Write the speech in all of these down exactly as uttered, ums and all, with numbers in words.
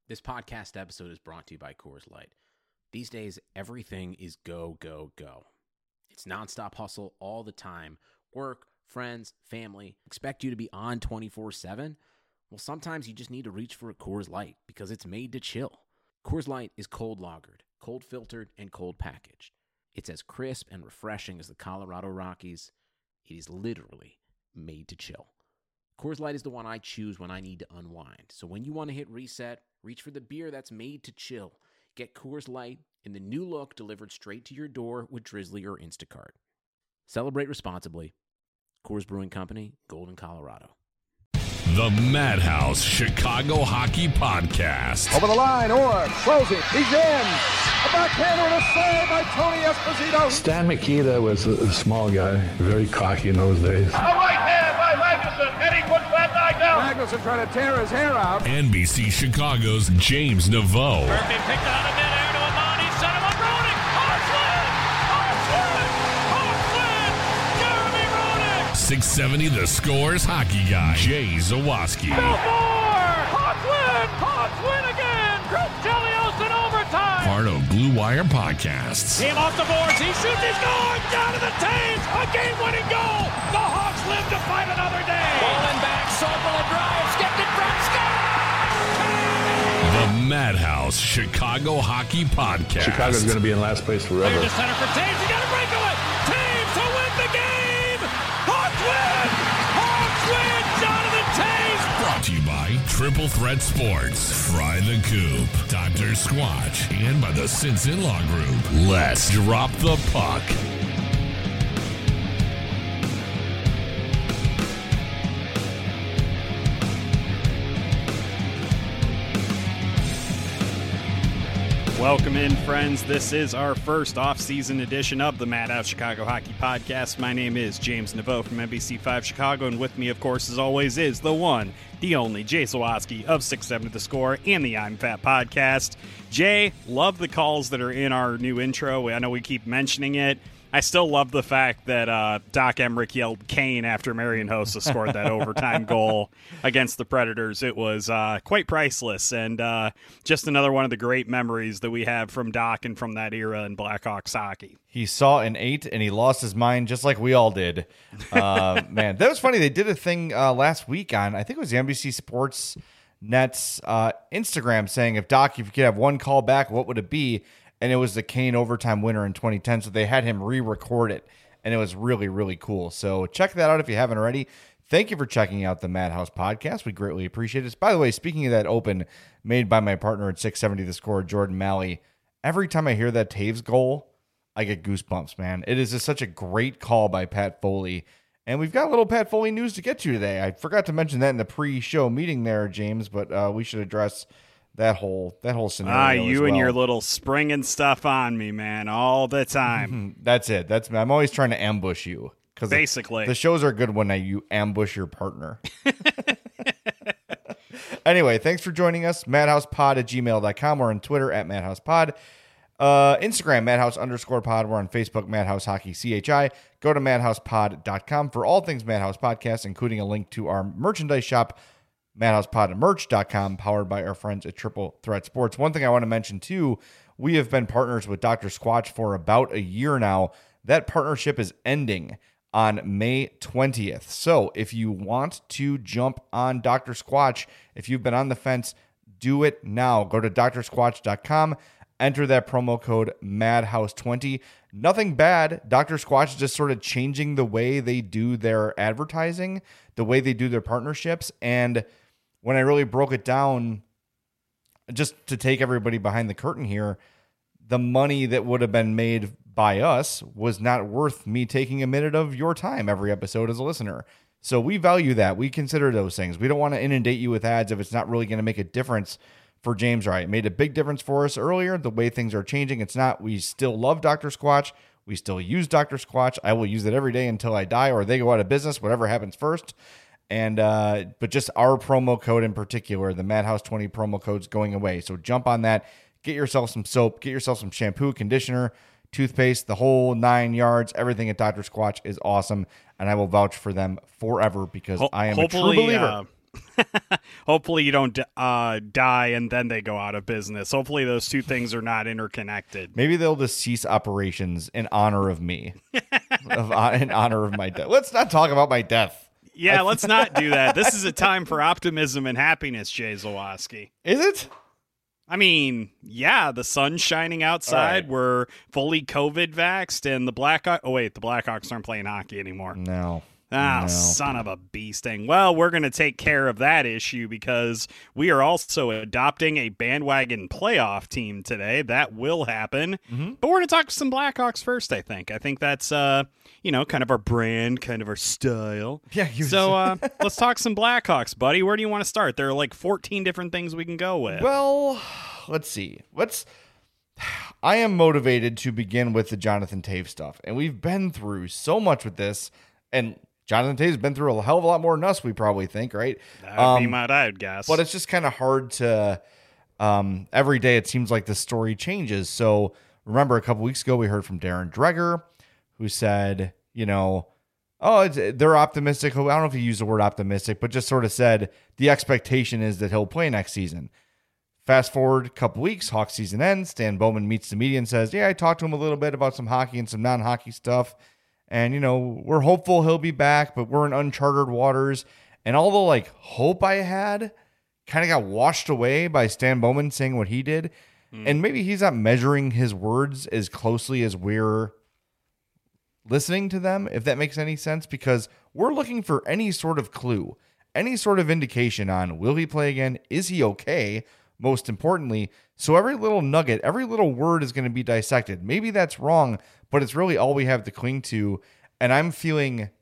This podcast episode is brought to you by Coors Light. These days, everything is go, go, go. It's nonstop hustle all the time. Work, friends, family, expect you to be on twenty-four seven. Well, sometimes you just need to reach for a Coors Light because it's made to chill. Coors Light is cold lagered, cold filtered, and cold packaged. It's as crisp and refreshing as the Colorado Rockies. It is literally made to chill. Coors Light is the one I choose when I need to unwind. So when you want to hit reset, reach for the beer that's made to chill. Get Coors Light in the new look delivered straight to your door with Drizzly or Instacart. Celebrate responsibly. Coors Brewing Company, Golden, Colorado. The Madhouse Chicago Hockey Podcast. Over the line, Orr, closing, he's in. A backhander and a save by Tony Esposito. Stan Mikita was a, a small guy, very cocky in those days. A right hand by Magnuson, and he puts that guy down. Magnuson trying to tear his hair out. N B C Chicago's James Naveau. Murphy picked it out of midair to Amani, set him up, Roenick. Hartland! Hartland! Hartland! Jeremy Roenick! six seventy The Score's hockey guy, Jay Zawaski. Belfort! Hawks win! Hawks win again! Chris Chelios in overtime! Part of Blue Wire Podcasts. Team off the boards, he shoots, he scores! Down to the Taves! A game-winning goal! The Hawks live to fight another day! Bowling back, Sorpel drives, gets it from Scott! The Madhouse Chicago Hockey Podcast. Chicago's going to be in last place forever. Clear to center for Taves, he got a breakaway! Taves to win the game! Hawks win! Hawks win! Jonathan Taves! Brought to you by Triple Threat Sports, Fry the Coop, Doctor Squatch, and by the Sinson Law Group. Let's drop the puck. Welcome in, friends. This is our first off-season edition of the Madhouse Chicago Hockey Podcast. My name is James Naveau from N B C five Chicago, and with me, of course, as always, is the one, the only, Jay Zawaski of six seventy The Score and the I'm Fat Podcast. Jay, love the calls that are in our new intro. I know we keep mentioning it. I still love the fact that uh, Doc Emmerich yelled Kane after Marian Hossa scored that overtime goal against the Predators. It was uh, quite priceless, and uh, just another one of the great memories that we have from Doc and from that era in Blackhawks hockey. He saw an eight, and he lost his mind just like we all did. Uh, man, that was funny. They did a thing uh, last week on, I think it was the N B C Sports Net's uh, Instagram saying, if Doc, if you could have one call back, what would it be? And it was the Kane overtime winner in twenty ten, so they had him re-record it, and it was really, really cool. So check that out if you haven't already. Thank you for checking out the Madhouse Podcast. We greatly appreciate it. By the way, speaking of that open made by my partner at six seventy The Score, Jordan Malley, every time I hear that Taves goal, I get goosebumps, man. It is just such a great call by Pat Foley. And we've got a little Pat Foley news to get to today. I forgot to mention that in the pre-show meeting there, James, but uh, we should address that whole that whole scenario. Ah, you as well. And your little springing stuff on me, man, all the time. That's it. That's I'm always trying to ambush you. Basically. The, the shows are good when I, you ambush your partner. Anyway, thanks for joining us. madhousepod at gmail dot com. We're on Twitter at madhousepod. Uh, Instagram, madhouse underscore pod. We're on Facebook, Madhouse Hockey C H I. Go to madhousepod dot com for all things Madhouse Podcast, including a link to our merchandise shop, madhousepod merch dot com, powered by our friends at Triple Threat Sports. One thing I want to mention, too, we have been partners with Doctor Squatch for about a year now. That partnership is ending on May twentieth. So if you want to jump on Doctor Squatch, if you've been on the fence, do it now. Go to dr squatch dot com. Enter that promo code madhouse twenty. Nothing bad. Doctor Squatch is just sort of changing the way they do their advertising, the way they do their partnerships. And when I really broke it down, just to take everybody behind the curtain here, the money that would have been made by us was not worth me taking a minute of your time every episode as a listener. So we value that. We consider those things. We don't want to inundate you with ads if it's not really going to make a difference for James Wright. It made a big difference for us earlier. The way things are changing, it's not. We still love Doctor Squatch. We still use Doctor Squatch. I will use it every day until I die or they go out of business, whatever happens first. And uh, but just our promo code in particular, the Madhouse twenty promo code's going away. So jump on that. Get yourself some soap. Get yourself some shampoo, conditioner, toothpaste, the whole nine yards. Everything at Doctor Squatch is awesome, and I will vouch for them forever because Ho- I am a true hopefully, believer. Uh, Hopefully you don't uh, die and then they go out of business. Hopefully those two things are not interconnected. Maybe they'll just cease operations in honor of me, of, uh, in honor of my death. Let's not talk about my death. Yeah, let's not do that. This is a time for optimism and happiness, Jay Zawaski. Is it? I mean, yeah, the sun's shining outside. Right. We're fully COVID vaxxed, and the Blackhawks. Oh, wait, the Blackhawks aren't playing hockey anymore. No. Ah, no. Son of a bee sting. Well, we're going to take care of that issue because we are also adopting a bandwagon playoff team today. That will happen. Mm-hmm. But we're going to talk some Blackhawks first, I think. I think that's, uh, you know, kind of our brand, kind of our style. Yeah. You so uh, let's talk some Blackhawks, buddy. Where do you want to start? There are like fourteen different things we can go with. Well, let's see. Let's. I am motivated to begin with the Jonathan Toews stuff. And we've been through so much with this. And Jonathan Toews has been through a hell of a lot more than us, we probably think, right? That would um, be my I would guess. But it's just kind of hard to, um, every day it seems like the story changes. So remember a couple weeks ago, we heard from Darren Dreger, who said, you know, oh, it's, they're optimistic. I don't know if he used the word optimistic, but just sort of said the expectation is that he'll play next season. Fast forward a couple weeks, Hawks season ends. Stan Bowman meets the media and says, yeah, I talked to him a little bit about some hockey and some non-hockey stuff. And, you know, we're hopeful he'll be back, but we're in uncharted waters. And all the, like, hope I had kind of got washed away by Stan Bowman saying what he did. Mm. And maybe he's not measuring his words as closely as we're listening to them, if that makes any sense, because we're looking for any sort of clue, any sort of indication on will he play again? Is he okay? Most importantly, so every little nugget, every little word is going to be dissected. Maybe that's wrong, but it's really all we have to cling to. And I'm feeling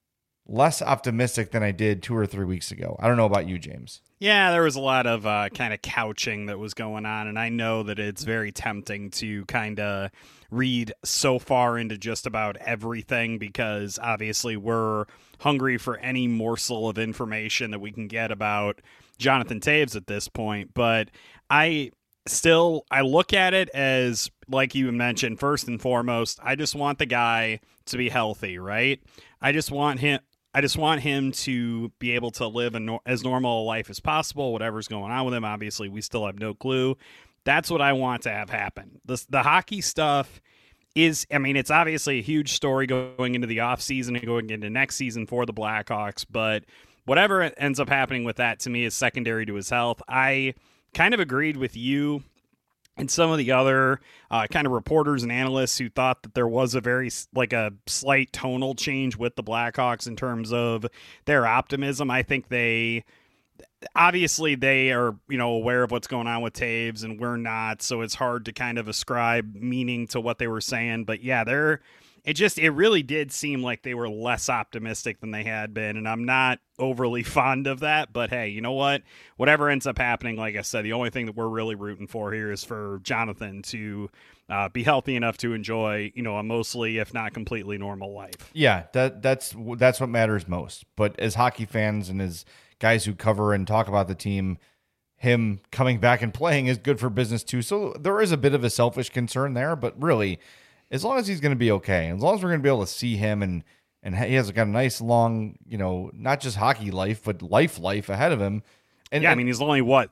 less optimistic than I did two or three weeks ago. I don't know about you, James. Yeah, there was a lot of uh, kind of couching that was going on, and I know that it's very tempting to kind of read so far into just about everything because obviously we're hungry for any morsel of information that we can get about Jonathan Toews at this point. But I still, I look at it as, like you mentioned, first and foremost, I just want the guy to be healthy, right? I just want him. I just want him to be able to live a no- as normal a life as possible, whatever's going on with him. Obviously, we still have no clue. That's what I want to have happen. The, the hockey stuff is, I mean, it's obviously a huge story going into the offseason and going into next season for the Blackhawks, but whatever ends up happening with that, to me, is secondary to his health. I kind of agreed with you and some of the other uh, kind of reporters and analysts who thought that there was a very, like a slight tonal change with the Blackhawks in terms of their optimism. I think they, obviously they are, you know, aware of what's going on with Toews and we're not, so it's hard to kind of ascribe meaning to what they were saying. But yeah, they're, it just, it really did seem like they were less optimistic than they had been, and I'm not overly fond of that, but hey, you know what? Whatever ends up happening, like I said, the only thing that we're really rooting for here is for Jonathan to uh, be healthy enough to enjoy, you know, a mostly, if not completely normal life. Yeah, that that's that's what matters most. But as hockey fans and as guys who cover and talk about the team, him coming back and playing is good for business too. So there is a bit of a selfish concern there, but really, as long as he's going to be okay, as long as we're going to be able to see him and and he has got a nice long, you know, not just hockey life, but life life ahead of him. And yeah, and, I mean, he's only, what,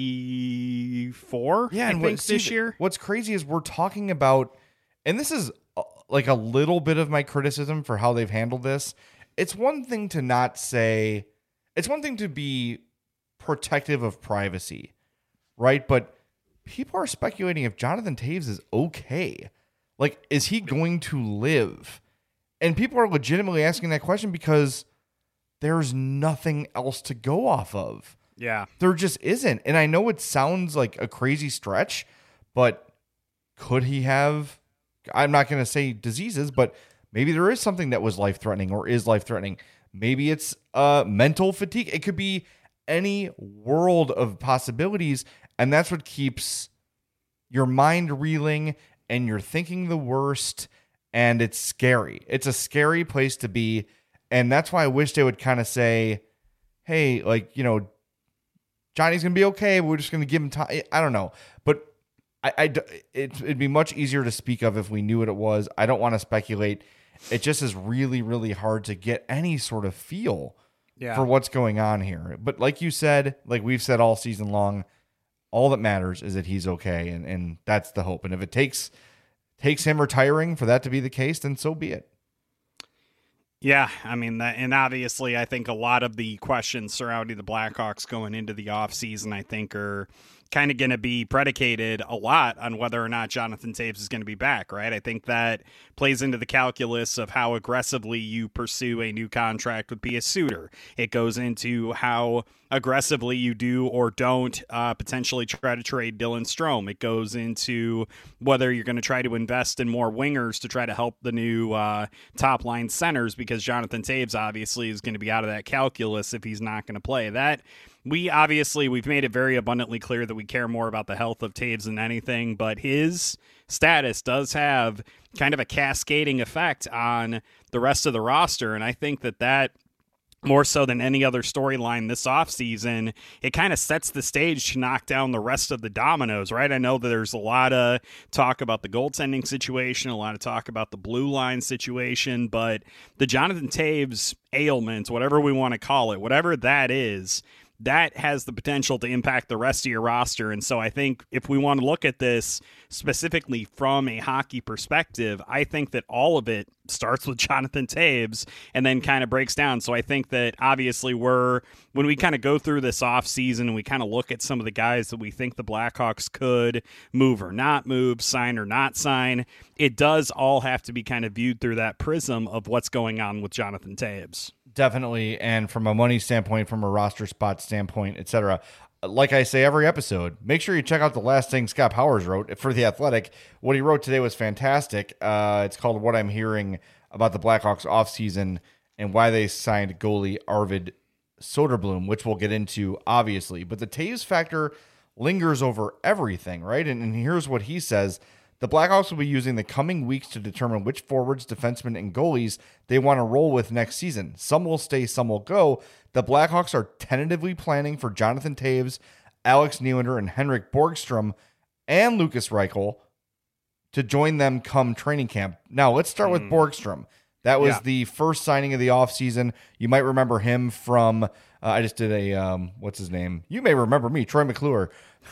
thirty-four? Yeah, I and think what, this see, year? What's crazy is we're talking about, and this is uh, like a little bit of my criticism for how they've handled this. It's one thing to not say, it's one thing to be protective of privacy, right? But people are speculating if Jonathan Toews is okay. Like, is he going to live? And people are legitimately asking that question because there's nothing else to go off of. Yeah. There just isn't. And I know it sounds like a crazy stretch, but could he have, I'm not going to say diseases, but maybe there is something that was life-threatening or is life-threatening. Maybe it's uh, mental fatigue. It could be any world of possibilities. And that's what keeps your mind reeling and you're thinking the worst, and it's scary. It's a scary place to be, and that's why I wish they would kind of say, hey, like, you know, Johnny's going to be okay, but we're just going to give him time. I don't know. But I, I, it, it'd be much easier to speak of if we knew what it was. I don't want to speculate. It just is really, really hard to get any sort of feel yeah. for what's going on here. But like you said, like we've said all season long, all that matters is that he's okay, and, and that's the hope. And if it takes takes him retiring for that to be the case, then so be it. Yeah, I mean, that, and obviously I think a lot of the questions surrounding the Blackhawks going into the offseason, I think, are kind of going to be predicated a lot on whether or not Jonathan Toews is going to be back, right? I think that plays into the calculus of how aggressively you pursue a new contract with Pius Suter. It goes into how aggressively you do or don't uh, potentially try to trade Dylan Strome. It goes into whether you're going to try to invest in more wingers to try to help the new uh, top line centers, because Jonathan Toews obviously is going to be out of that calculus if he's not going to play. That we obviously, we've made it very abundantly clear that we care more about the health of Toews than anything, but his status does have kind of a cascading effect on the rest of the roster. And I think that that, more so than any other storyline this offseason, it kind of sets the stage to knock down the rest of the dominoes, right? I know that there's a lot of talk about the goaltending situation, a lot of talk about the blue line situation, but the Jonathan Toews ailment, whatever we want to call it, whatever that is, that has the potential to impact the rest of your roster. And so I think if we want to look at this specifically from a hockey perspective, I think that all of it starts with Jonathan Toews and then kind of breaks down. So I think that obviously we're, when we kind of go through this offseason and we kind of look at some of the guys that we think the Blackhawks could move or not move, sign or not sign, it does all have to be kind of viewed through that prism of what's going on with Jonathan Toews. Definitely. And from a money standpoint, from a roster spot standpoint, et cetera, like I say every episode, make sure you check out the last thing Scott Powers wrote for The Athletic. What he wrote today was fantastic. Uh, it's called What I'm Hearing About the Blackhawks Offseason and Why They Signed Goalie Arvid Soderblom, which we'll get into, obviously. But the Toews factor lingers over everything, right? And, and here's what he says. The Blackhawks will be using the coming weeks to determine which forwards, defensemen, and goalies they want to roll with next season. Some will stay, some will go. The Blackhawks are tentatively planning for Jonathan Toews, Alex Nylander, and Henrik Borgstrom, and Lukas Reichel to join them come training camp. Now, let's start with mm. Borgstrom. That was yeah. the first signing of the offseason. You might remember him from, uh, I just did a, um, what's his name? You may remember me, Troy McClure.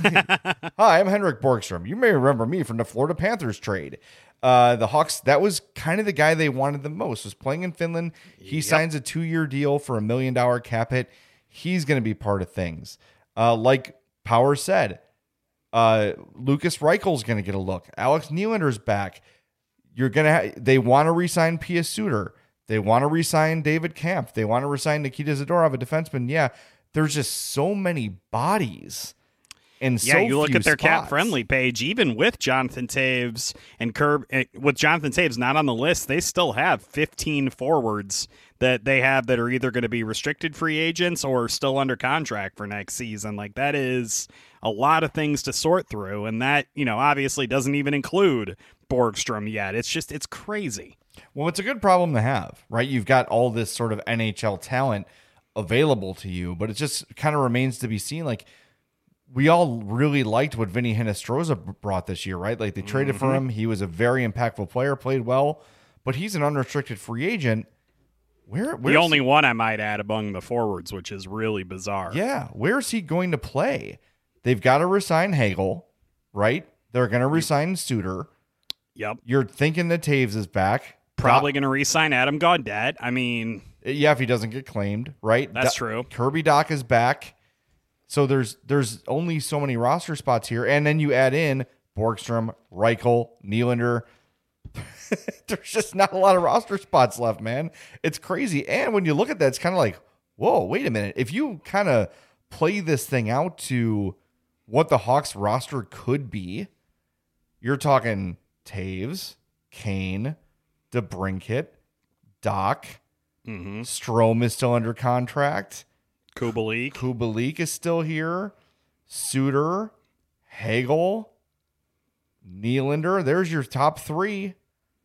Hi, I'm Henrik Borgstrom. You may remember me from the Florida Panthers trade. Uh, the Hawks, that was kind of the guy they wanted the most, was playing in Finland. He yep. signs a two-year deal for a million dollar cap hit. He's going to be part of things. Uh, like Power said, uh, Lukas Reichel's going to get a look. Alex Nylander's back. You're going to ha- they want to re-sign Pius Suter. They want to re-sign David Kampf. They want to re-sign Nikita Zadorov, a defenseman. Yeah, there's just so many bodies. And yeah, so you look few at their spots. cap friendly page, even with Jonathan Toews and Curb, with Jonathan Toews not on the list, they still have fifteen forwards that they have that are either going to be restricted free agents or still under contract for next season. Like, that is a lot of things to sort through. And that, you know, obviously doesn't even include Borgstrom yet. It's just, it's crazy. Well, it's a good problem to have, right? You've got all this sort of N H L talent available to you, but it just kind of remains to be seen. Like, we all really liked what Vinny Hinostroza brought this year, right? Like, they traded mm-hmm. for him. He was a very impactful player, played well, but he's an unrestricted free agent. Where, the only he? one I might add among the forwards, which is really bizarre. Yeah, where's he going to play? They've got to resign Hagel, right? They're going to resign Suter. Yep. You're thinking that Toews is back. Probably going to re-sign Adam Gaudette. I mean... Yeah, if he doesn't get claimed, right? That's Do- true. Kirby Dach is back. So there's there's only so many roster spots here. And then you add in Borgstrom, Reichel, Nylander. There's just not a lot of roster spots left, man. It's crazy. And when you look at that, it's kind of like, whoa, wait a minute. If you kind of play this thing out to what the Hawks roster could be, you're talking Toews, Kane, DeBrincat, Dach, mm-hmm. Strome is still under contract. Kubalik. Kubalik is still here. Suter, Hagel, Nylander. There's your top three.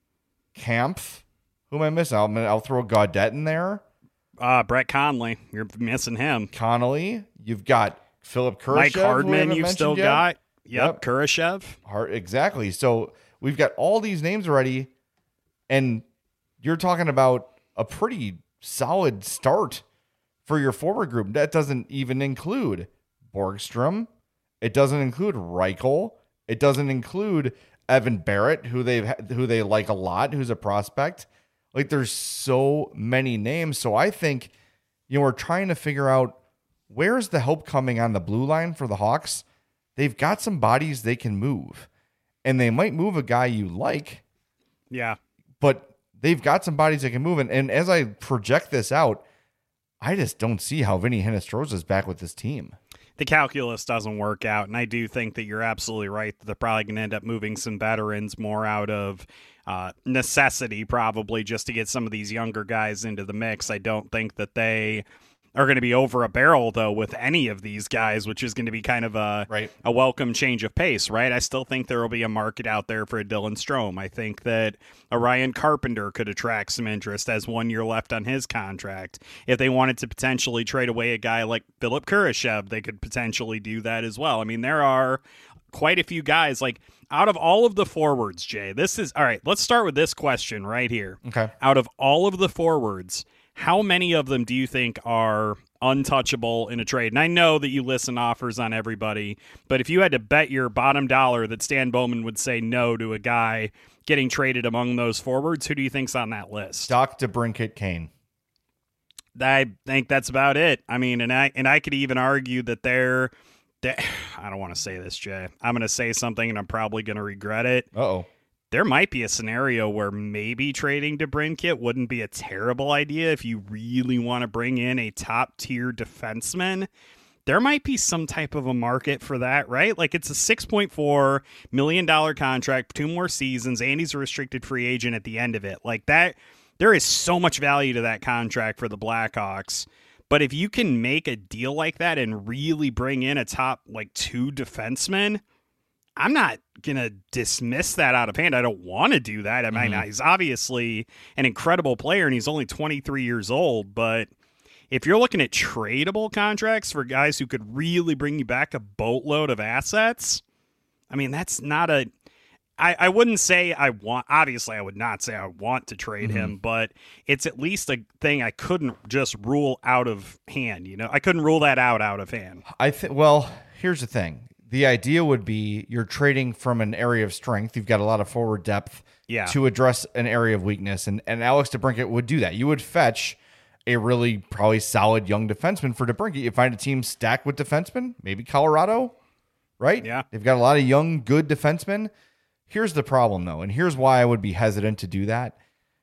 Kampf. Who am I missing? I'll, I'll throw Gaudette in there. Uh, Brett Connolly. You're missing him. Connolly. You've got Philip Kurashev. Mike Hardman you've still yet. got. Yep, yep. Kurashev. Hard, exactly. So we've got all these names already, and you're talking about a pretty solid start for your forward group. That doesn't even include Borgstrom. It doesn't include Reichel. It doesn't include Evan Barrett, who they've who they like a lot, who's a prospect. Like, there's so many names. So I think, you know, we're trying to figure out where's the help coming on the blue line for the Hawks. They've got some bodies they can move, and they might move a guy you like. Yeah. But they've got some bodies that can move. And, and as I project this out, I just don't see how Vinny Hinostroza is back with this team. The calculus doesn't work out, and I do think that you're absolutely right that they're probably going to end up moving some veterans more out of uh, necessity, probably just to get some of these younger guys into the mix. I don't think that they are going to be over a barrel, though, with any of these guys, which is going to be kind of a, right. a welcome change of pace, right? I still think there will be a market out there for a Dylan Strome. I think that a Ryan Carpenter could attract some interest as one year left on his contract. If they wanted to potentially trade away a guy like Philip Kurashev, they could potentially do that as well. I mean, there are quite a few guys, like, out of all of the forwards, Jay, this is, all right, let's start with this question right here. Okay. Out of all of the forwards, how many of them do you think are untouchable in a trade? And I know that you listen to offers on everybody, but if you had to bet your bottom dollar that Stan Bowman would say no to a guy getting traded among those forwards, who do you think's on that list? Doc DeBrincat Kane. I think that's about it. I mean, and I and I could even argue that they're, they're I don't want to say this, Jay. I'm going to say something and I'm probably going to regret it. Uh-oh. There might be a scenario where maybe trading DeBrincat wouldn't be a terrible idea if you really want to bring in a top-tier defenseman. There might be some type of a market for that, right? Like, it's a six point four million dollars contract, two more seasons, and he's a restricted free agent at the end of it. Like, that, there is so much value to that contract for the Blackhawks. But if you can make a deal like that and really bring in a top, like, two defensemen, I'm not going to dismiss that out of hand. I don't want to do that. I mean, mm-hmm. he's obviously an incredible player, and he's only twenty-three years old. But if you're looking at tradable contracts for guys who could really bring you back a boatload of assets, I mean, that's not a I, I wouldn't say I want, obviously I would not say I want to trade mm-hmm. him, but it's at least a thing I couldn't just rule out of hand. You know, I couldn't rule that out out of hand. I think, well, here's the thing. The idea would be you're trading from an area of strength. You've got a lot of forward depth yeah. to address an area of weakness. And, and Alex DeBrincat would do that. You would fetch a really probably solid young defenseman for DeBrincat. You find a team stacked with defensemen, maybe Colorado, right? Yeah. They've got a lot of young, good defensemen. Here's the problem, though, and here's why I would be hesitant to do that.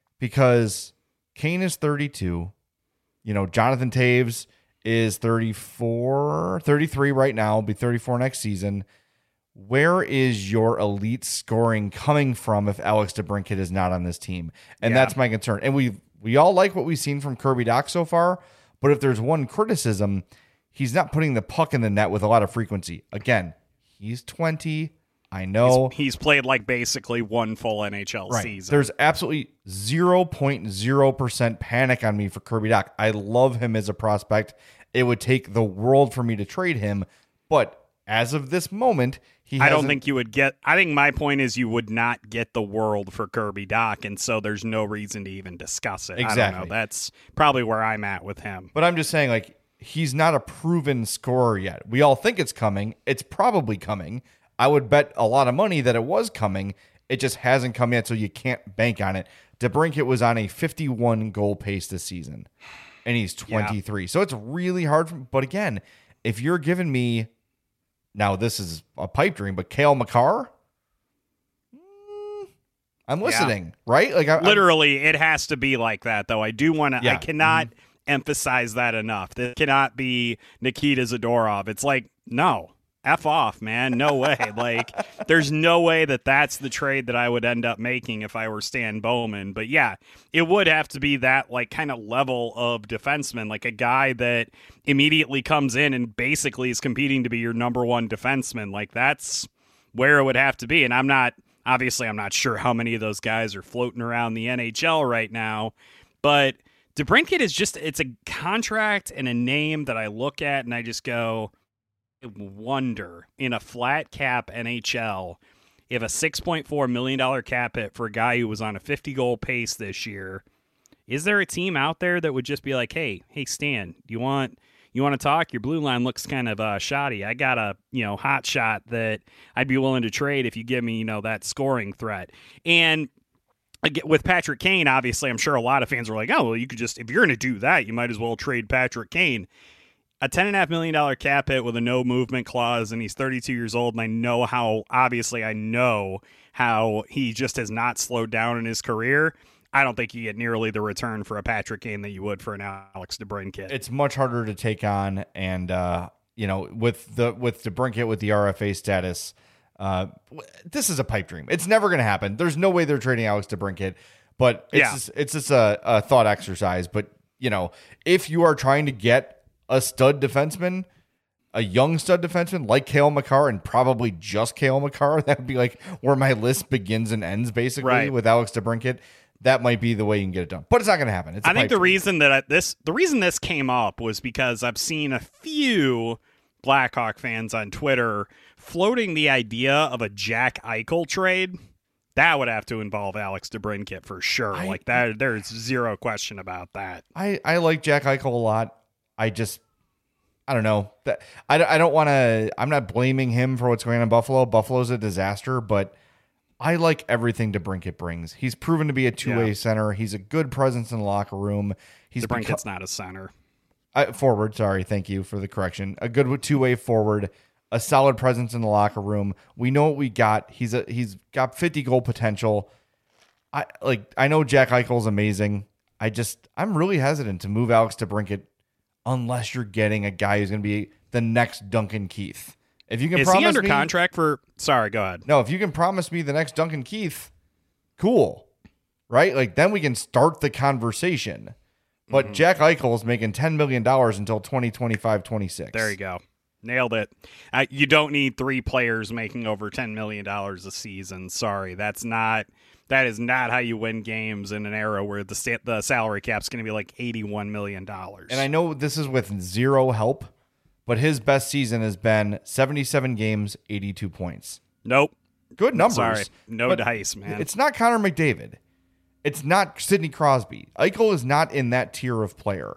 Because Kane is thirty-two. You know, Jonathan Taves is thirty-four, thirty-three right now, will be thirty-four next season. Where is your elite scoring coming from if Alex DeBrincat is not on this team? And yeah. that's my concern. And we we all like what we've seen from Kirby Dach so far, but if there's one criticism, he's not putting the puck in the net with a lot of frequency. Again, he's twenty. I know. He's, he's played like basically one full N H L right. season. There's absolutely zero point zero percent panic on me for Kirby Dach. I love him as a prospect. It would take the world for me to trade him, but as of this moment, he I don't think you would get, I think my point is you would not get the world for Kirby Dach, and so there's no reason to even discuss it. Exactly. I don't know. That's probably where I'm at with him. But I'm just saying, like, he's not a proven scorer yet. We all think it's coming. It's probably coming. I would bet a lot of money that it was coming. It just hasn't come yet, so you can't bank on it. DeBrincat was on a fifty-one goal pace this season, and he's twenty-three. Yeah. So it's really hard. For, but again, if you're giving me, now this is a pipe dream, but Cale Makar, mm, I'm listening, yeah. right? Like I, Literally, I'm, it has to be like that, though. I do want to, yeah. I cannot mm-hmm. emphasize that enough. This cannot be Nikita Zadorov. It's like, no. F off, man. No way. Like, there's no way that that's the trade that I would end up making if I were Stan Bowman. But yeah, it would have to be that, like, kind of level of defenseman, like a guy that immediately comes in and basically is competing to be your number one defenseman. Like, that's where it would have to be. And I'm not, obviously, I'm not sure how many of those guys are floating around the N H L right now. But DeBrincat is just, it's a contract and a name that I look at and I just go, wonder in a flat cap N H L if a six point four million dollars cap hit for a guy who was on a fifty goal pace this year Is there a team out there that would just be like, hey, hey, Stan, do you want you want to talk? Your blue line looks kind of uh, shoddy. I got a you know hot shot that I'd be willing to trade if you give me you know that scoring threat. And with Patrick Kane, obviously, I'm sure a lot of fans are like, oh, well, you could just, if you're going to do that, you might as well trade Patrick Kane. A ten point five million dollars cap hit with a no movement clause, and he's thirty-two years old, and I know how, obviously, I know how he just has not slowed down in his career. I don't think you get nearly the return for a Patrick Kane that you would for an Alex DeBrincat. It's much harder to take on, and, uh, you know, with the with DeBrincat with the R F A status, uh, this is a pipe dream. It's never going to happen. There's no way they're trading Alex DeBrincat, but it's yeah. just, it's just a, a thought exercise. But, you know, if you are trying to get a stud defenseman, a young stud defenseman like Cale Makar, and probably just Cale Makar, that would be like where my list begins and ends, basically, right. with Alex DeBrincat. That might be the way you can get it done, but it's not going to happen. It's I think the dream. reason that I, this, the reason this came up was because I've seen a few Blackhawk fans on Twitter floating the idea of a Jack Eichel trade. That would have to involve Alex DeBrincat for sure. I, like that, there's zero question about that. I, I like Jack Eichel a lot. I just, I don't know that I, I don't want to, I'm not blaming him for what's going on in Buffalo. Buffalo's a disaster, but I like everything DeBrincat brings. He's proven to be a two-way yeah. center. He's a good presence in the locker room. He's DeBrincat's beco- not a center. I, forward, sorry. Thank you for the correction. A good two-way forward, a solid presence in the locker room. We know what we got. He's a he's got fifty goal potential. I like I know Jack Eichel's amazing. I just I'm really hesitant to move Alex DeBrincat unless you're getting a guy who's going to be the next Duncan Keith. If you can Is promise he under me, contract for sorry, go ahead. No, if you can promise me the next Duncan Keith, cool. Right? Like then we can start the conversation. But mm-hmm. Jack Eichel is making ten million dollars until twenty twenty-five twenty-six. There you go. Nailed it. Uh, you don't need three players making over ten million dollars a season. Sorry, that's not that is not how you win games in an era where the sta- the salary cap's going to be like eighty-one million dollars. And I know this is with zero help, but his best season has been seventy-seven games, eighty-two points. Nope. Good numbers. Sorry. No dice, man. It's not Connor McDavid. It's not Sidney Crosby. Eichel is not in that tier of player.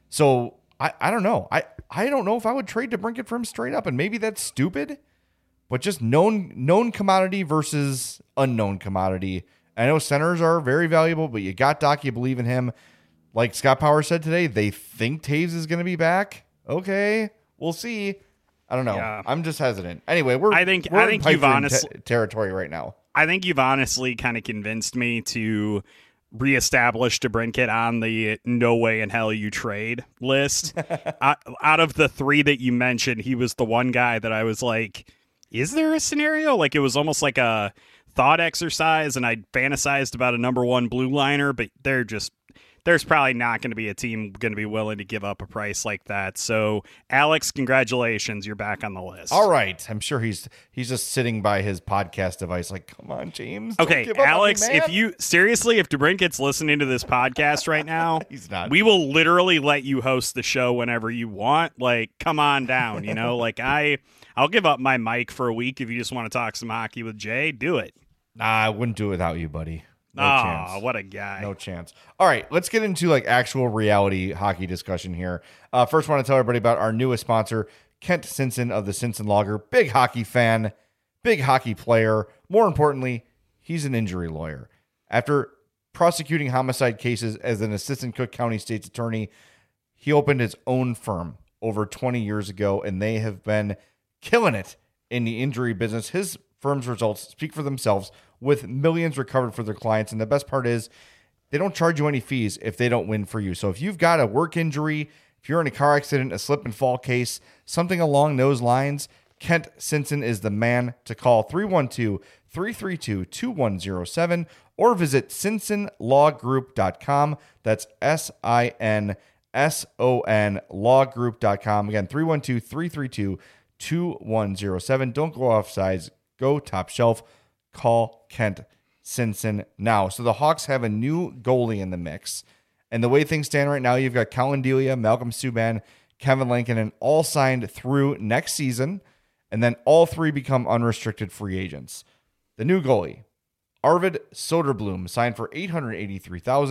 So I, I don't know. I, I don't know if I would trade DeBrincat for him straight up, and maybe that's stupid, but just known known commodity versus unknown commodity. I know centers are very valuable, but you got Doc, you believe in him. Like Scott Power said today, they think Taves is going to be back. Okay, we'll see. I don't know. Yeah. I'm just hesitant. Anyway, we're I think we're I think you've honestly te- territory right now. I think you've honestly kind of convinced me to reestablish DeBrincat on the no way in hell you trade list. uh, out of the three that you mentioned, he was the one guy that I was like, is there a scenario? Like it was almost like a thought exercise, and I fantasized about a number one blue liner, but they're just there's probably not going to be a team going to be willing to give up a price like that. So, Alex, congratulations. You're back on the list. All right. I'm sure he's he's just sitting by his podcast device like, come on, James. Okay, Alex, me, if you seriously, if DeBrincat's listening to this podcast right now, he's not. We will literally let you host the show whenever you want. Like, come on down, you know? like, I, I'll give up my mic for a week if you just want to talk some hockey with Jay. Do it. Nah, I wouldn't do it without you, buddy. No oh, chance. What a guy. No chance. All right, let's get into like actual reality hockey discussion here. Uh, first, I want to tell everybody about our newest sponsor, Kent Sinson of the Sinson Logger. Big hockey fan, big hockey player. More importantly, he's an injury lawyer. After prosecuting homicide cases as an assistant Cook County State's attorney, he opened his own firm over twenty years ago, and they have been killing it in the injury business. His firm's results speak for themselves, with millions recovered for their clients. And the best part is they don't charge you any fees if they don't win for you. So if you've got a work injury, if you're in a car accident, a slip and fall case, something along those lines, Kent Sinson is the man to call. Three one two, three three two, two one zero seven or visit sinson law group dot com. That's S I N S O N law group dot com. Again, three one two, three three two, two one zero seven. Don't go off sides. Go top shelf. Call Kent Sinson now. So the Hawks have a new goalie in the mix. And the way things stand right now, you've got Colin Delia, Malcolm Subban, Kevin Lankinen all signed through next season. And then all three become unrestricted free agents. The new goalie, Arvid Soderblom, signed for eight hundred eighty-three thousand dollars.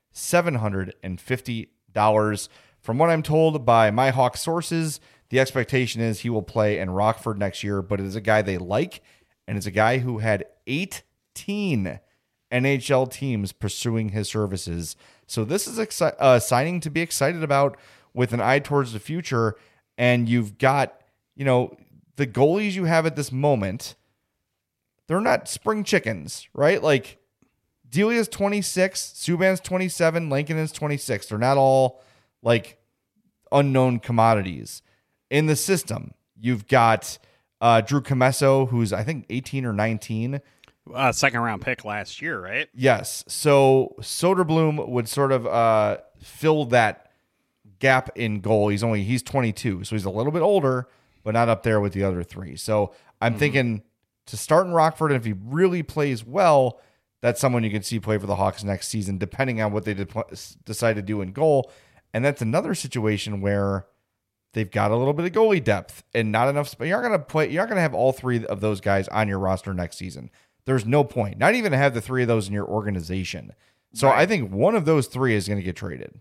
seven hundred fifty dollars. From what I'm told by my Hawk sources, the expectation is he will play in Rockford next year, but it is a guy they like, and it's a guy who had eighteen N H L teams pursuing his services. So this is exci- uh, signing to be excited about with an eye towards the future. And you've got, you know, the goalies you have at this moment, they're not spring chickens, right? Like Delia's twenty-six, Subban's twenty-seven, Lankinen's twenty-six. They're not all like unknown commodities in the system. You've got uh, Drew Comesso, who's I think eighteen or nineteen. Uh, second round pick last year, right? Yes. So Soderblom would sort of uh, fill that gap in goal. He's only he's twenty-two, so he's a little bit older, but not up there with the other three. So I'm mm-hmm. thinking to start in Rockford, and if he really plays well, that's someone you can see play for the Hawks next season, depending on what they de- decide to do in goal. And that's another situation where they've got a little bit of goalie depth and not enough. But you're not going to play. You're not going to have all three of those guys on your roster next season. There's no point. Not even to have the three of those in your organization. So right. I think one of those three is going to get traded.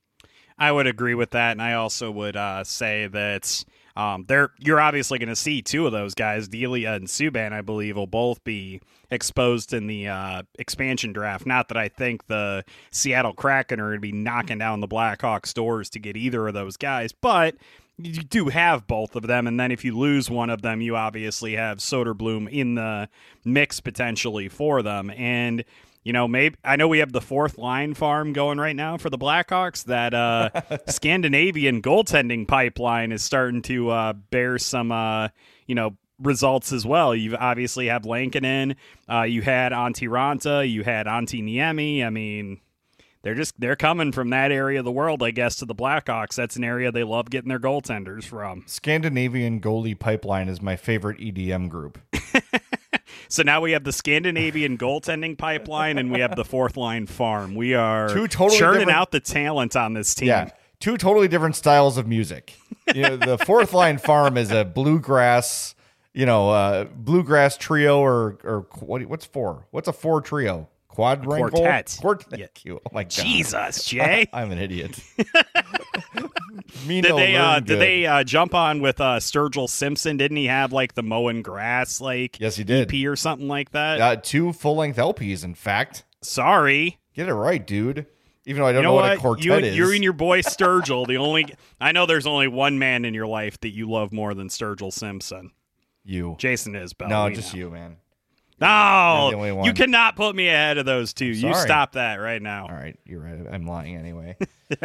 I would agree with that, and I also would uh, say that um, they're you're obviously going to see two of those guys, Delia and Subban, I believe, will both be exposed in the uh, expansion draft. Not that I think the Seattle Kraken are going to be knocking down the Blackhawks' doors to get either of those guys, but you do have both of them, and then if you lose one of them, you obviously have Soderblom in the mix potentially for them. And you know, maybe I know we have the fourth line farm going right now for the Blackhawks. That uh, Scandinavian goaltending pipeline is starting to uh, bear some, uh, you know, results as well. You obviously have Lankinen, uh, you had Antti Ranta, you had Antti Niemi. I mean, they're just they're coming from that area of the world, I guess, to the Blackhawks. That's an area they love getting their goaltenders from. Scandinavian goalie pipeline is my favorite E D M group. So now we have the Scandinavian goaltending pipeline, and we have the fourth line farm. We are two totally churning different... out the talent on this team. Yeah, two totally different styles of music. You know, the fourth line farm is a bluegrass, you know, uh, bluegrass trio, or or what? What's four? What's a four trio? Quadrangle? Quartet. Quartet. Yeah. Oh my god. Jesus, Jay. I'm an idiot. did they uh, did they uh, jump on with uh, Sturgill Simpson? Didn't he have like the mowing grass like yes, he did. E P or something like that? Uh, two full length L Ps, in fact. Sorry. Get it right, dude. Even though I don't you know, know what, what a quartet you, is. You and your boy Sturgill, the only I know there's only one man in your life that you love more than Sturgill Simpson. You. Jason Isbell. No, just know. You, man. No, you cannot put me ahead of those two. You stop that right now. All right, you're right. I'm lying anyway.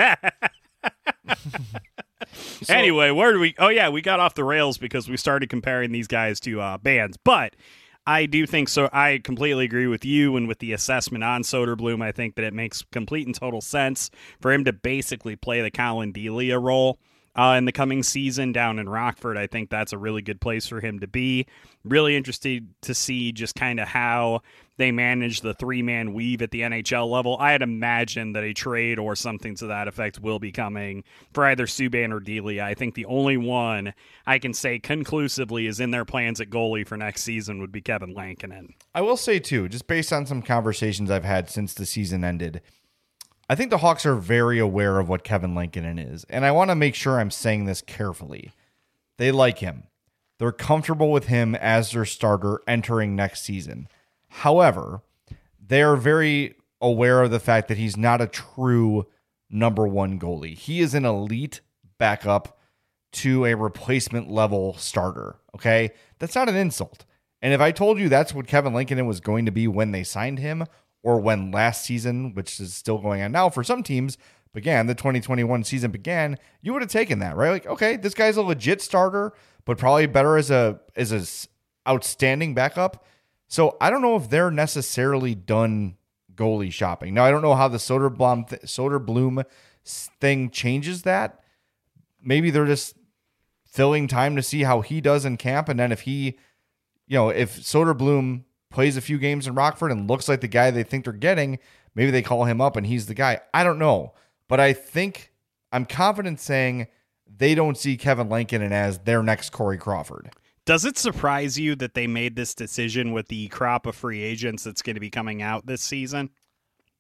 So, anyway, where do we? Oh yeah, we got off the rails because we started comparing these guys to uh, bands. But I do think so. I completely agree with you and with the assessment on Soderblom. I think that it makes complete and total sense for him to basically play the Colin Delia role Uh, in the coming season down in Rockford. I think that's a really good place for him to be. Really interested to see just kind of how they manage the three-man weave at the N H L level. I had imagined that a trade or something to that effect will be coming for either Subban or Delia. I think the only one I can say conclusively is in their plans at goalie for next season would be Kevin Lankinen. I will say, too, just based on some conversations I've had since the season ended, I think the Hawks are very aware of what Kevin Lankinen is, and I want to make sure I'm saying this carefully. They like him. They're comfortable with him as their starter entering next season. However, they are very aware of the fact that he's not a true number one goalie. He is an elite backup to a replacement level starter, okay? That's not an insult. And if I told you that's what Kevin Lankinen was going to be when they signed him, or when last season, which is still going on now for some teams, began, the twenty twenty-one season began, you would have taken that, right? Like, okay, this guy's a legit starter, but probably better as a as a outstanding backup. So I don't know if they're necessarily done goalie shopping. Now, I don't know how the Soderblom th- Soderblom thing changes that. Maybe they're just filling time to see how he does in camp, and then if he, you know, if Soderblom plays a few games in Rockford and looks like the guy they think they're getting, maybe they call him up and he's the guy. I don't know. But I think I'm confident saying they don't see Kevin Lankinen as their next Corey Crawford. Does it surprise you that they made this decision with the crop of free agents that's going to be coming out this season?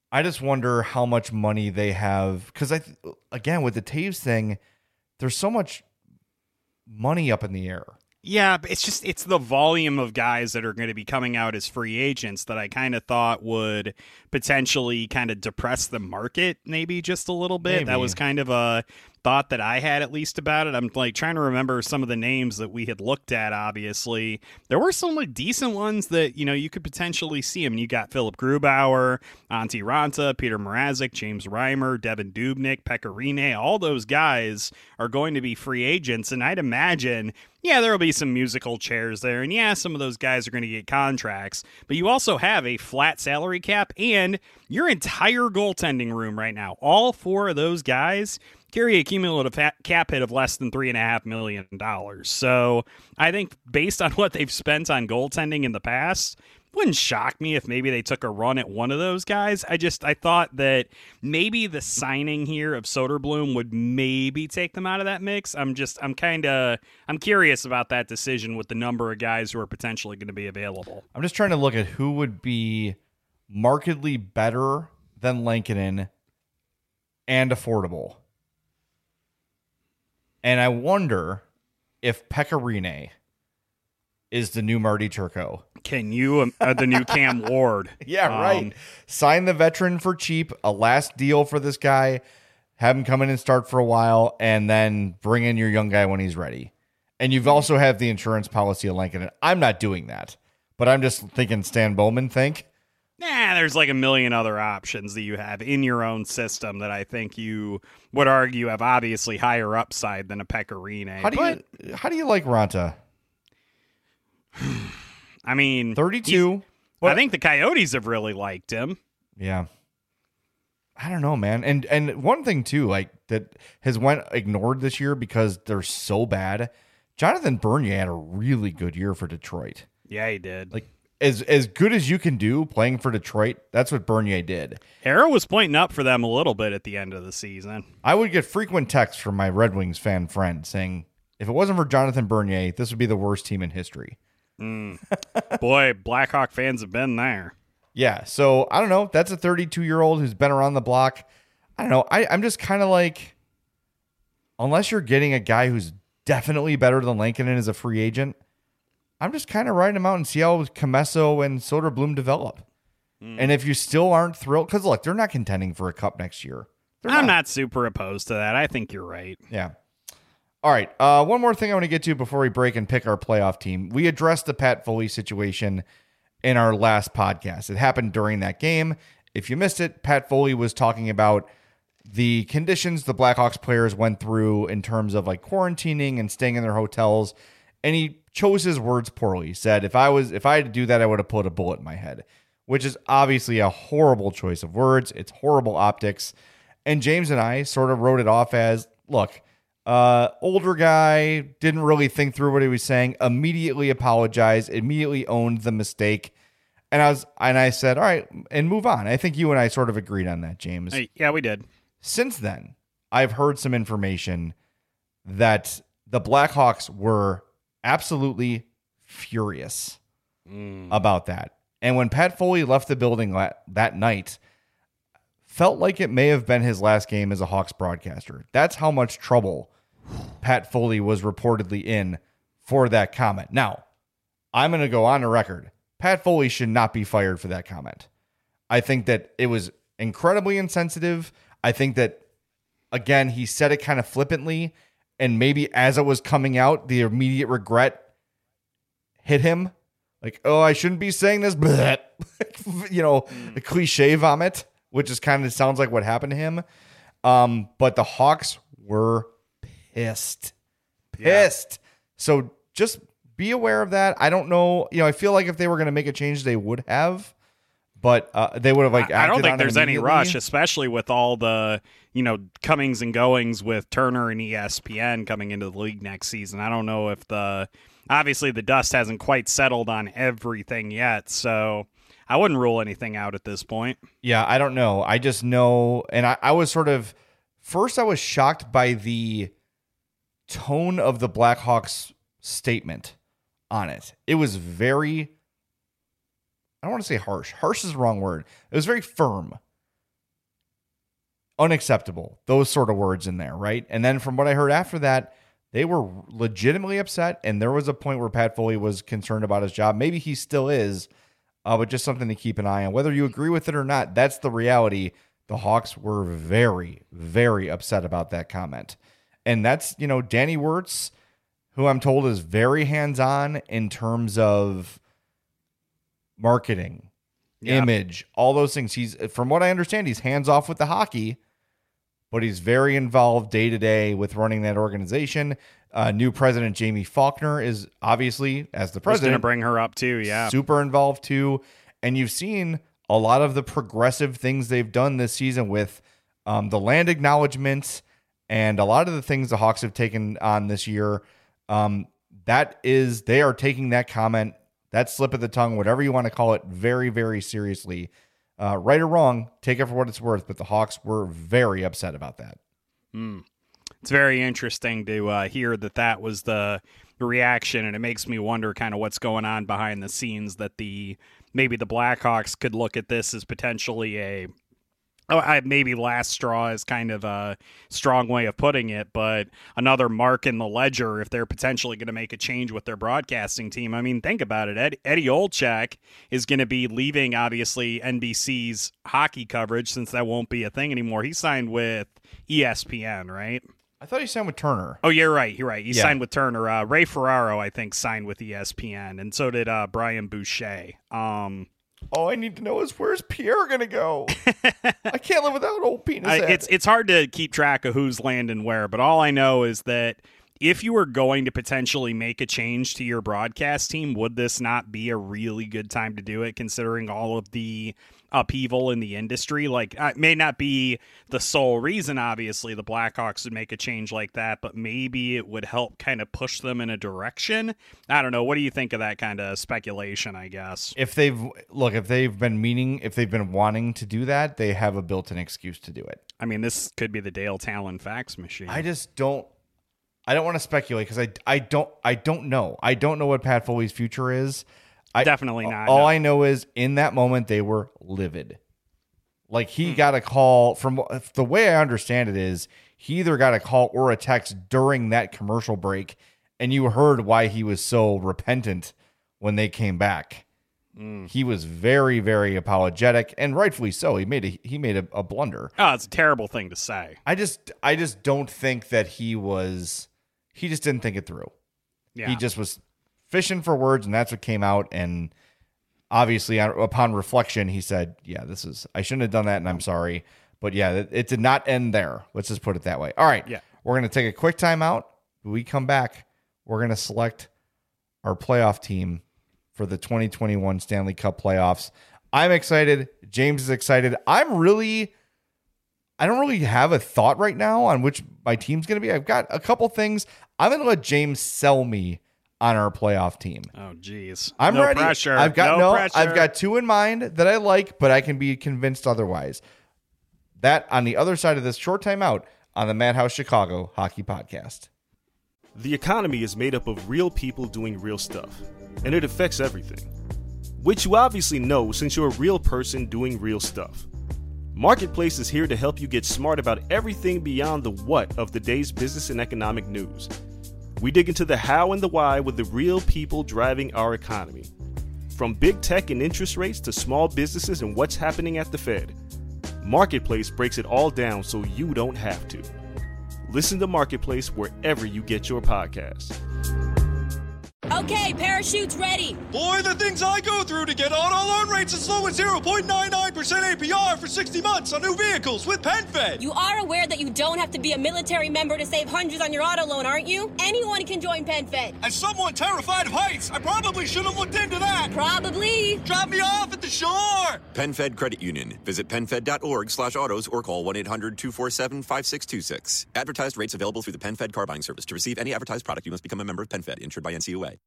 I just wonder how much money they have. Because, I, th- again, with the Taves thing, there's so much money up in the air. Yeah, but it's just it's the volume of guys that are going to be coming out as free agents that I kind of thought would potentially kind of depress the market maybe just a little bit. Maybe. That was kind of a thought that I had at least about it. I'm like trying to remember some of the names that we had looked at. Obviously, there were some like decent ones that, you know, you could potentially see them. You got Philip Grubauer, Antti Ranta, Peter Mrazek, James Reimer, Devin Dubnyk, Pekka Rinne. All those guys are going to be free agents, and I'd imagine, yeah, there will be some musical chairs there, and yeah, some of those guys are going to get contracts, but you also have a flat salary cap, and your entire goaltending room right now, all four of those guys carry a cumulative cap hit of less than three and a half million dollars. So I think based on what they've spent on goaltending in the past, wouldn't shock me if maybe they took a run at one of those guys. I just I thought that maybe the signing here of Soderblom would maybe take them out of that mix. I'm just I'm kind of I'm curious about that decision with the number of guys who are potentially going to be available. I'm just trying to look at who would be markedly better than Lankinen and affordable. And I wonder if Pekka Rinne is the new Marty Turco. Can you, um, uh, the new Cam Ward? Yeah, um, right. Sign the veteran for cheap, a last deal for this guy, have him come in and start for a while, and then bring in your young guy when he's ready. And you've also have the insurance policy of Lankinen. I'm not doing that, but I'm just thinking Stan Bowman think. Nah, there's like a million other options that you have in your own system that I think you would argue have obviously higher upside than a Pekka Rinne. How do but, you how do you like Ranta? I mean, thirty-two. I think the Coyotes have really liked him. Yeah. I don't know, man. And and one thing too, like that has went ignored this year because they're so bad. Jonathan Bernier had a really good year for Detroit. Yeah, he did. Like as as good as you can do playing for Detroit, that's what Bernier did. Arrow was pointing up for them a little bit at the end of the season. I would get frequent texts from my Red Wings fan friend saying, if it wasn't for Jonathan Bernier, this would be the worst team in history. Mm. Boy, Blackhawk fans have been there. Yeah, so I don't know. That's a thirty-two-year-old who's been around the block. I don't know. I, I'm just kind of like, unless you're getting a guy who's definitely better than Lankinen as a free agent, I'm just kind of riding him out and see how Comesso and Soderblom develop. Mm. And if you still aren't thrilled, because look, they're not contending for a cup next year. They're I'm not. not super opposed to that. I think you're right. Yeah. All right. Uh, one more thing I want to get to before we break and pick our playoff team. We addressed the Pat Foley situation in our last podcast. It happened during that game. If you missed it, Pat Foley was talking about the conditions the Blackhawks players went through in terms of like quarantining and staying in their hotels. And he chose his words poorly. He said, if I was, if I had to do that, I would have put a bullet in my head, which is obviously a horrible choice of words. It's horrible optics. And James and I sort of wrote it off as, look, uh, older guy, didn't really think through what he was saying, immediately apologized, immediately owned the mistake. And I was, and I said, all right, and move on. I think you and I sort of agreed on that, James. Hey, yeah, we did. Since then, I've heard some information that the Blackhawks were absolutely furious mm. about that. And when Pat Foley left the building la- that night, felt like it may have been his last game as a Hawks broadcaster. That's how much trouble Pat Foley was reportedly in for that comment. Now, I'm going to go on the record. Pat Foley should not be fired for that comment. I think that it was incredibly insensitive. I think that, again, he said it kind of flippantly, and maybe as it was coming out, the immediate regret hit him. Like, oh, I shouldn't be saying this. You know, mm. the cliche vomit, which is kind of sounds like what happened to him. Um, but the Hawks were pissed. Pissed. Yeah. So just be aware of that. I don't know. You know, I feel like if they were going to make a change, they would have. But uh, they would have like. I don't think there's any rush, especially with all the, you know, comings and goings with Turner and E S P N coming into the league next season. I don't know if the obviously the dust hasn't quite settled on everything yet, so I wouldn't rule anything out at this point. Yeah, I don't know. I just know, and I, I was sort of first. I was shocked by the tone of the Blackhawks statement on it. It was very. I don't want to say harsh. Harsh is the wrong word. It was very firm. unacceptable. Those sort of words in there, right? And then from what I heard after that, they were legitimately upset, and there was a point where Pat Foley was concerned about his job. Maybe he still is, uh, but just something to keep an eye on. Whether you agree with it or not, that's the reality. The Hawks were very, very upset about that comment. And that's, you know, Danny Wirtz, who I'm told is very hands-on in terms of marketing, yeah. image, all those things. He's, from what I understand, he's hands-off with the hockey, but he's very involved day-to-day with running that organization. Uh, new president Jamie Faulkner is obviously, as the president, going to bring her up too, yeah. super involved too. And you've seen a lot of the progressive things they've done this season with um, the land acknowledgements and a lot of the things the Hawks have taken on this year. Um, that is, they are taking that comment, that slip of the tongue, whatever you want to call it, very, very seriously. Uh, right or wrong, take it for what it's worth, but the Hawks were very upset about that. Mm. It's very interesting to uh, hear that that was the reaction, and it makes me wonder kind of what's going on behind the scenes, that the maybe the Blackhawks could look at this as potentially a Oh, I, maybe last straw is kind of a strong way of putting it, but another mark in the ledger if they're potentially going to make a change with their broadcasting team. I mean, think about it. Ed, Eddie Olczyk is going to be leaving, obviously, N B C's hockey coverage, since that won't be a thing anymore. He signed with E S P N, right? I thought he signed with Turner. Oh, you're right. You're right. He yeah. signed with Turner. Uh, Ray Ferraro, I think, signed with E S P N, and so did uh, Brian Boucher. Um All I need to know is, where's Pierre going to go? I can't live without old penis head. I, it's it's hard to keep track of who's landing where, but all I know is that if you were going to potentially make a change to your broadcast team, would this not be a really good time to do it, considering all of the upheaval in the industry? Like, it may not be the sole reason, obviously, the Blackhawks would make a change like that, but maybe it would help kind of push them in a direction. I don't know. What do you think of that kind of speculation, I guess? If they've, look, if they've been meaning, if they've been wanting to do that, they have a built-in excuse to do it. I mean, this could be the Dale Talon fax machine. I just don't, I don't want to speculate because I, I don't, I don't know. I don't know what Pat Foley's future is. I, Definitely not. All no. I know is in that moment they were livid. Like he hmm. got a call from the way I understand it is he either got a call or a text during that commercial break, and you heard why he was so repentant when they came back. Mm. He was very, very apologetic, and rightfully so. He made a he made a, a blunder. Oh, it's a terrible thing to say. I just I just don't think that he was. He just didn't think it through. Yeah. He just was fishing for words, and that's what came out. And obviously, upon reflection, he said, yeah, this is, I shouldn't have done that, and I'm sorry. But yeah, it, it did not end there. Let's just put it that way. All right. Yeah. We're going to take a quick timeout. When we come back, we're going to select our playoff team for the twenty twenty-one Stanley Cup playoffs. I'm excited. James is excited. I'm really, I don't really have a thought right now on which my team's going to be. I've got a couple things. I'm going to let James sell me on our playoff team. Oh, geez. I'm no ready. Pressure. I've got no, no pressure. I've got two in mind that I like, but I can be convinced otherwise. That on the other side of this short timeout on the Madhouse Chicago Hockey Podcast. The economy is made up of real people doing real stuff, and it affects everything. Which you obviously know since you're a real person doing real stuff. Marketplace is here to help you get smart about everything beyond the what of the day's business and economic news. We dig into the how and the why with the real people driving our economy. From big tech and interest rates to small businesses and what's happening at the Fed. Marketplace breaks it all down so you don't have to. Listen to Marketplace wherever you get your podcasts. Okay, parachute's ready. Boy, the things I go through to get auto loan rates as low as zero point nine nine percent A P R for sixty months on new vehicles with PenFed. You are aware that you don't have to be a military member to save hundreds on your auto loan, aren't you? Anyone can join PenFed. As someone terrified of heights, I probably should have looked into that. Probably. Drop me off at the shore. PenFed Credit Union. Visit PenFed.org slash autos or call one eight hundred two four seven five six two six. Advertised rates available through the PenFed car buying service. To receive any advertised product, you must become a member of PenFed, insured by N C U A.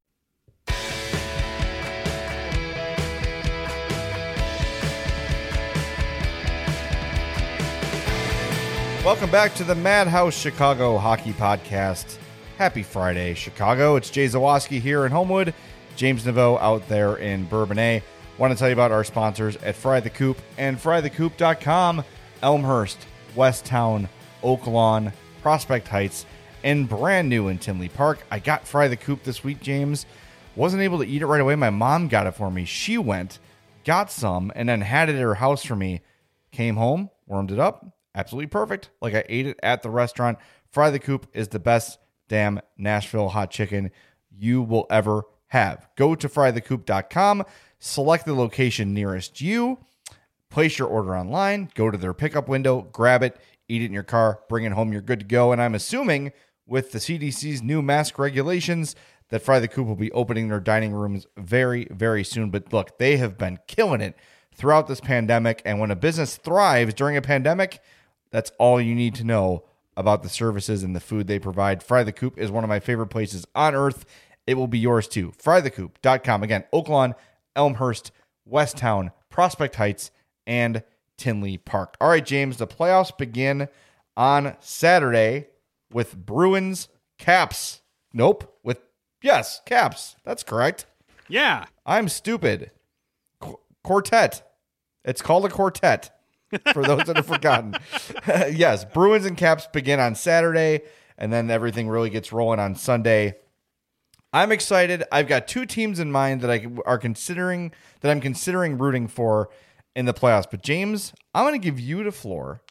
Welcome back to the Madhouse Chicago Hockey Podcast. Happy Friday, Chicago. It's Jay Zawoski here in Homewood, James Naveau out there in Bourbonnais. Want to tell you about our sponsors at Fry the Coop and fry the coop dot com. Elmhurst, Westtown, Oak Lawn, Prospect Heights, and brand new in Tinley Park. I got Fry the Coop this week, James. Wasn't able to eat it right away. My mom got it for me. She went, got some, and then had it at her house for me. Came home, warmed it up. Absolutely perfect. Like I ate it at the restaurant. Fry the Coop is the best damn Nashville hot chicken you will ever have. Go to fry the coop dot com, select the location nearest you, place your order online, go to their pickup window, grab it, eat it in your car, bring it home, you're good to go. And I'm assuming with the C D C's new mask regulations that Fry the Coop will be opening their dining rooms very, very soon. But look, they have been killing it throughout this pandemic. And when a business thrives during a pandemic, that's all you need to know about the services and the food they provide. Fry the Coop is one of my favorite places on earth. It will be yours too. fry the coop dot com. Again, Oak Lawn, Elmhurst, Westtown, Prospect Heights, and Tinley Park. All right, James, the playoffs begin on Saturday with Bruins Caps. Nope. With, yes, Caps. That's correct. Yeah. I'm stupid. Qu- quartet. It's called a quartet for those that have forgotten. Yes, Bruins and Caps begin on Saturday, and then everything really gets rolling on Sunday. I'm excited. I've got two teams in mind that I are considering that I'm considering rooting for in the playoffs. But James, I'm going to give you the floor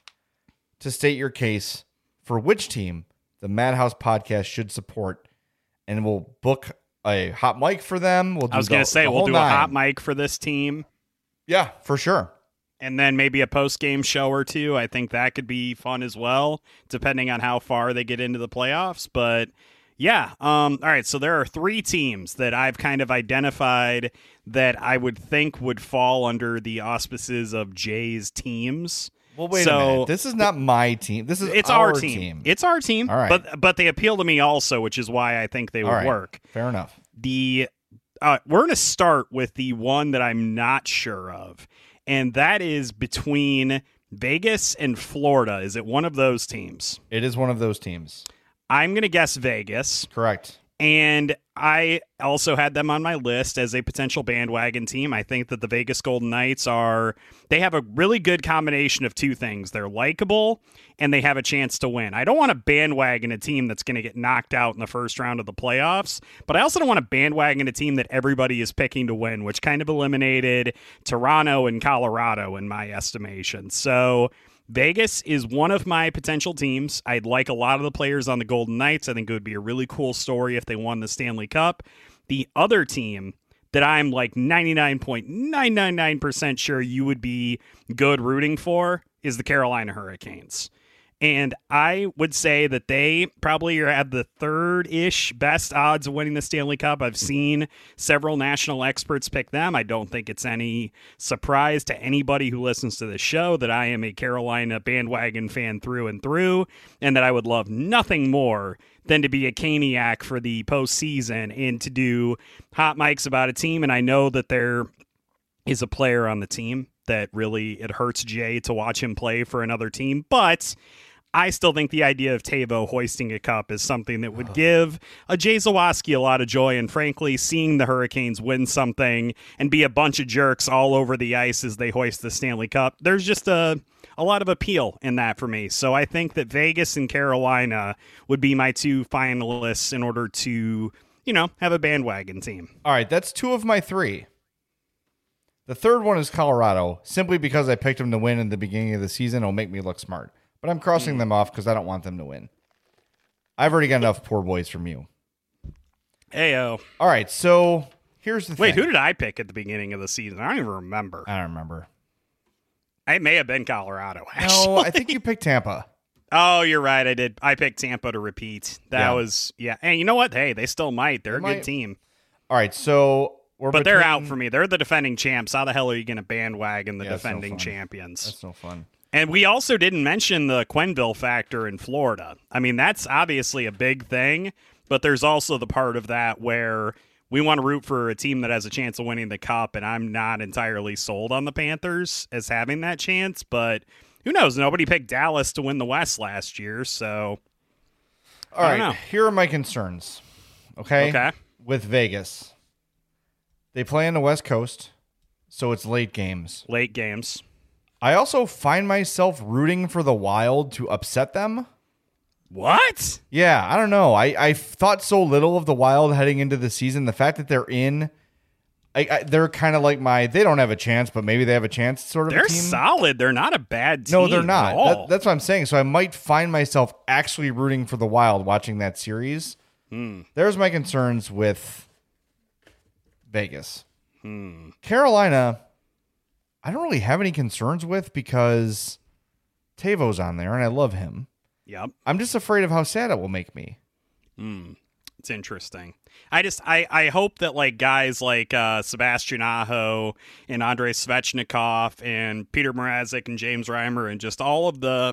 to state your case for which team the Madhouse podcast should support, and we'll book a hot mic for them. We'll do I was going to say we'll do nine. a hot mic for this team. Yeah, for sure. And then maybe a post-game show or two. I think that could be fun as well, depending on how far they get into the playoffs. But yeah, um, all right, so there are three teams that I've kind of identified that I would think would fall under the auspices of Jay's teams. Well, wait so, a minute. This is not my team. This is it's our, our team. team. It's our team. All right. But but they appeal to me also, which is why I think they would right. work. Fair enough. The uh, we're going to start with the one that I'm not sure of, and that is between Vegas and Florida. Is it one of those teams? It is one of those teams. I'm going to guess Vegas. Correct. And I also had them on my list as a potential bandwagon team. I think that the Vegas Golden Knights are, they have a really good combination of two things. They're likable and they have a chance to win. I don't want to bandwagon a team that's going to get knocked out in the first round of the playoffs, but I also don't want to bandwagon a team that everybody is picking to win, which kind of eliminated Toronto and Colorado in my estimation. So Vegas is one of my potential teams. I'd like a lot of the players on the Golden Knights. I think it would be a really cool story if they won the Stanley Cup. The other team that I'm like ninety-nine point nine nine nine percent sure you would be good rooting for is the Carolina Hurricanes. And I would say that they probably are at the third-ish best odds of winning the Stanley Cup. I've seen several national experts pick them. I don't think it's any surprise to anybody who listens to the show that I am a Carolina bandwagon fan through and through, and that I would love nothing more than to be a Caniac for the postseason and to do hot mics about a team. And I know that there is a player on the team that really, it hurts Jay to watch him play for another team, but I still think the idea of Teuvo hoisting a cup is something that would give a Jay Zawaski a lot of joy. And frankly, seeing the Hurricanes win something and be a bunch of jerks all over the ice as they hoist the Stanley Cup, there's just a, a lot of appeal in that for me. So I think that Vegas and Carolina would be my two finalists in order to, you know, have a bandwagon team. All right, that's two of my three. The third one is Colorado, simply because I picked them to win in the beginning of the season. It'll make me look smart. But I'm crossing them off because I don't want them to win. I've already got enough poor boys from you. Ayo. All right, so here's the Wait, thing. who did I pick at the beginning of the season? I don't even remember. I don't remember. It may have been Colorado, actually. No, I think you picked Tampa. Oh, you're right. I did. I picked Tampa to repeat. That Yeah. was, yeah. And you know what? Hey, they still might. They're They a might. good team. All right, so we're But they're between- out for me. They're the defending champs. How the hell are you going to bandwagon the Yeah, it's no defending fun. champions? That's no fun. And we also didn't mention the Quenneville factor in Florida. I mean, that's obviously a big thing, but there's also the part of that where we want to root for a team that has a chance of winning the cup, and I'm not entirely sold on the Panthers as having that chance, but who knows? Nobody picked Dallas to win the West last year, so All I right, don't know. here are my concerns. Okay? Okay. With Vegas. They play on the West Coast, so it's late games. Late games. I also find myself rooting for the Wild to upset them. What? Yeah, I don't know. I, I thought so little of the Wild heading into the season. The fact that they're in, I, I, they're kind of like my, they don't have a chance, but maybe they have a chance sort of They're a team. solid. They're not a bad team. No, they're not. At all. That, that's what I'm saying. So I might find myself actually rooting for the Wild watching that series. Hmm. There's my concerns with Vegas. Hmm. Carolina, I don't really have any concerns with because Tavo's on there and I love him. Yep. I'm just afraid of how sad it will make me. Hmm. It's interesting. I just I, I hope that like guys like uh, Sebastian Aho and Andrei Svechnikov and Peter Mrazek and James Reimer and just all of the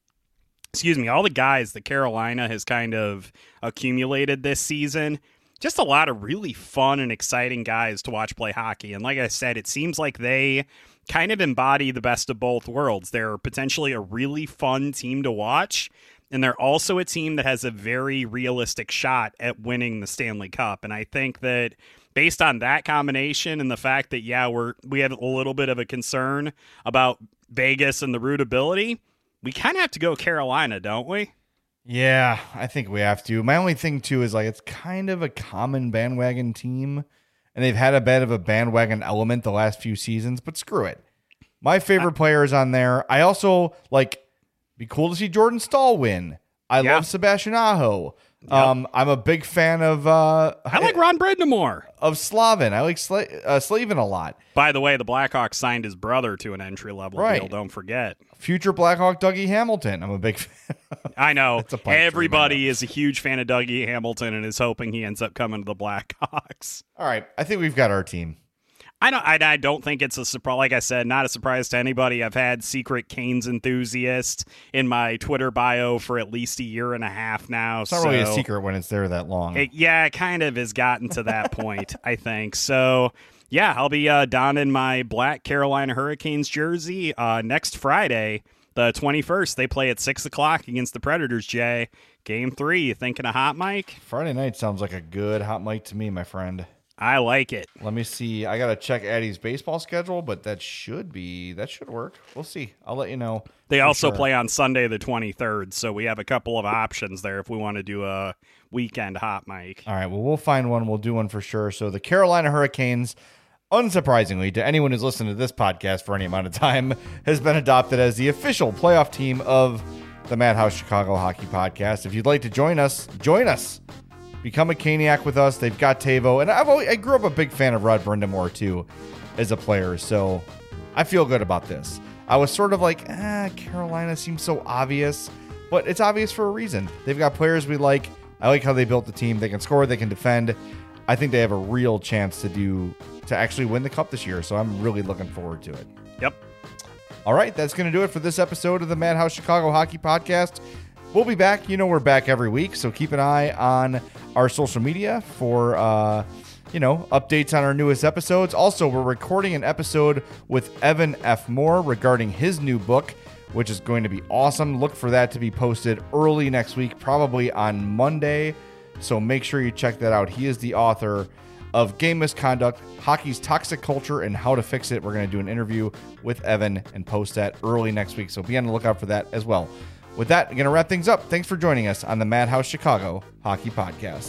excuse me all the guys that Carolina has kind of accumulated this season. Just a lot of really fun and exciting guys to watch play hockey. And like I said, it seems like they kind of embody the best of both worlds. They're potentially a really fun team to watch, and they're also a team that has a very realistic shot at winning the Stanley Cup. And I think that based on that combination and the fact that, yeah, we're we have a little bit of a concern about Vegas and the rootability, we kind of have to go Carolina, don't we? Yeah, I think we have to. My only thing, too, is like it's kind of a common bandwagon team, and they've had a bit of a bandwagon element the last few seasons, but screw it. My favorite player is on there. I also, like, be cool to see Jordan Staal win. I Yeah. love Sebastian Aho. Um, I'm a big fan of... Uh, I like Ron Brindamore. Of Slavin. I like Sla- uh, Slavin a lot. By the way, the Blackhawks signed his brother to an entry-level Right. deal, don't forget. Future Blackhawk Dougie Hamilton. I'm a big fan. I know. That's a pipe dream, Everybody is a huge fan of Dougie Hamilton and is hoping he ends up coming to the Blackhawks. All right. I think we've got our team. I don't. I, I don't think it's a surprise. Like I said, not a surprise to anybody. I've had secret Canes enthusiast in my Twitter bio for at least a year and a half now. It's not so really a secret when it's there that long. It, yeah, it kind of has gotten to that point, I think. So, yeah, I'll be uh, donning my black Carolina Hurricanes jersey uh, next Friday, the twenty-first. They play at six o'clock against the Predators, Jay. Game three. You thinking a hot mic? Friday night sounds like a good hot mic to me, my friend. I like it. Let me see. I got to check Addie's baseball schedule, but that should be, that should work. We'll see. I'll let you know. They also sure. play on Sunday the twenty-third, so we have a couple of options there if we want to do a weekend hot mic. All right, well, we'll find one. We'll do one for sure. So the Carolina Hurricanes, unsurprisingly to anyone who's listened to this podcast for any amount of time, has been adopted as the official playoff team of the Madhouse Chicago Hockey Podcast. If you'd like to join us, join us. Become a Caniac with us. They've got Tavo. And I've always, I grew up a big fan of Rod Brindamore, too, as a player. So I feel good about this. I was sort of like, ah, Carolina seems so obvious. But it's obvious for a reason. They've got players we like. I like how they built the team. They can score. They can defend. I think they have a real chance to do to actually win the Cup this year. So I'm really looking forward to it. Yep. All right, that's going to do it for this episode of the Madhouse Chicago Hockey Podcast. We'll be back. You know we're back every week, so keep an eye on our social media for, uh, you know, updates on our newest episodes. Also, we're recording an episode with Evan F. Moore regarding his new book, which is going to be awesome. Look for that to be posted early next week, probably on Monday, so make sure you check that out. He is the author of Game Misconduct, Hockey's Toxic Culture, and How to Fix It. We're going to do an interview with Evan and post that early next week, so be on the lookout for that as well. With that, I'm going to wrap things up. Thanks for joining us on the Madhouse Chicago Hockey Podcast.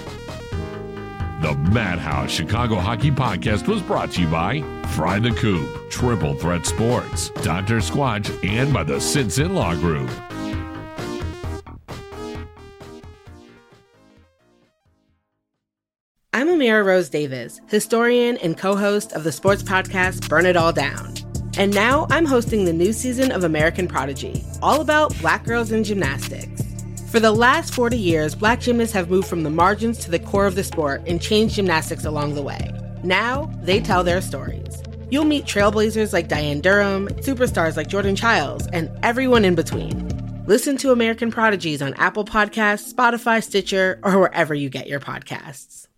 The Madhouse Chicago Hockey Podcast was brought to you by Fry the Coop, Triple Threat Sports, Doctor Squatch, and by the Sinson Law Group. I'm Amira Rose Davis, historian and co-host of the sports podcast Burn It All Down. And now I'm hosting the new season of American Prodigy, all about Black girls in gymnastics. For the last forty years, Black gymnasts have moved from the margins to the core of the sport and changed gymnastics along the way. Now, they tell their stories. You'll meet trailblazers like Diane Durham, superstars like Jordan Childs, and everyone in between. Listen to American Prodigies on Apple Podcasts, Spotify, Stitcher, or wherever you get your podcasts.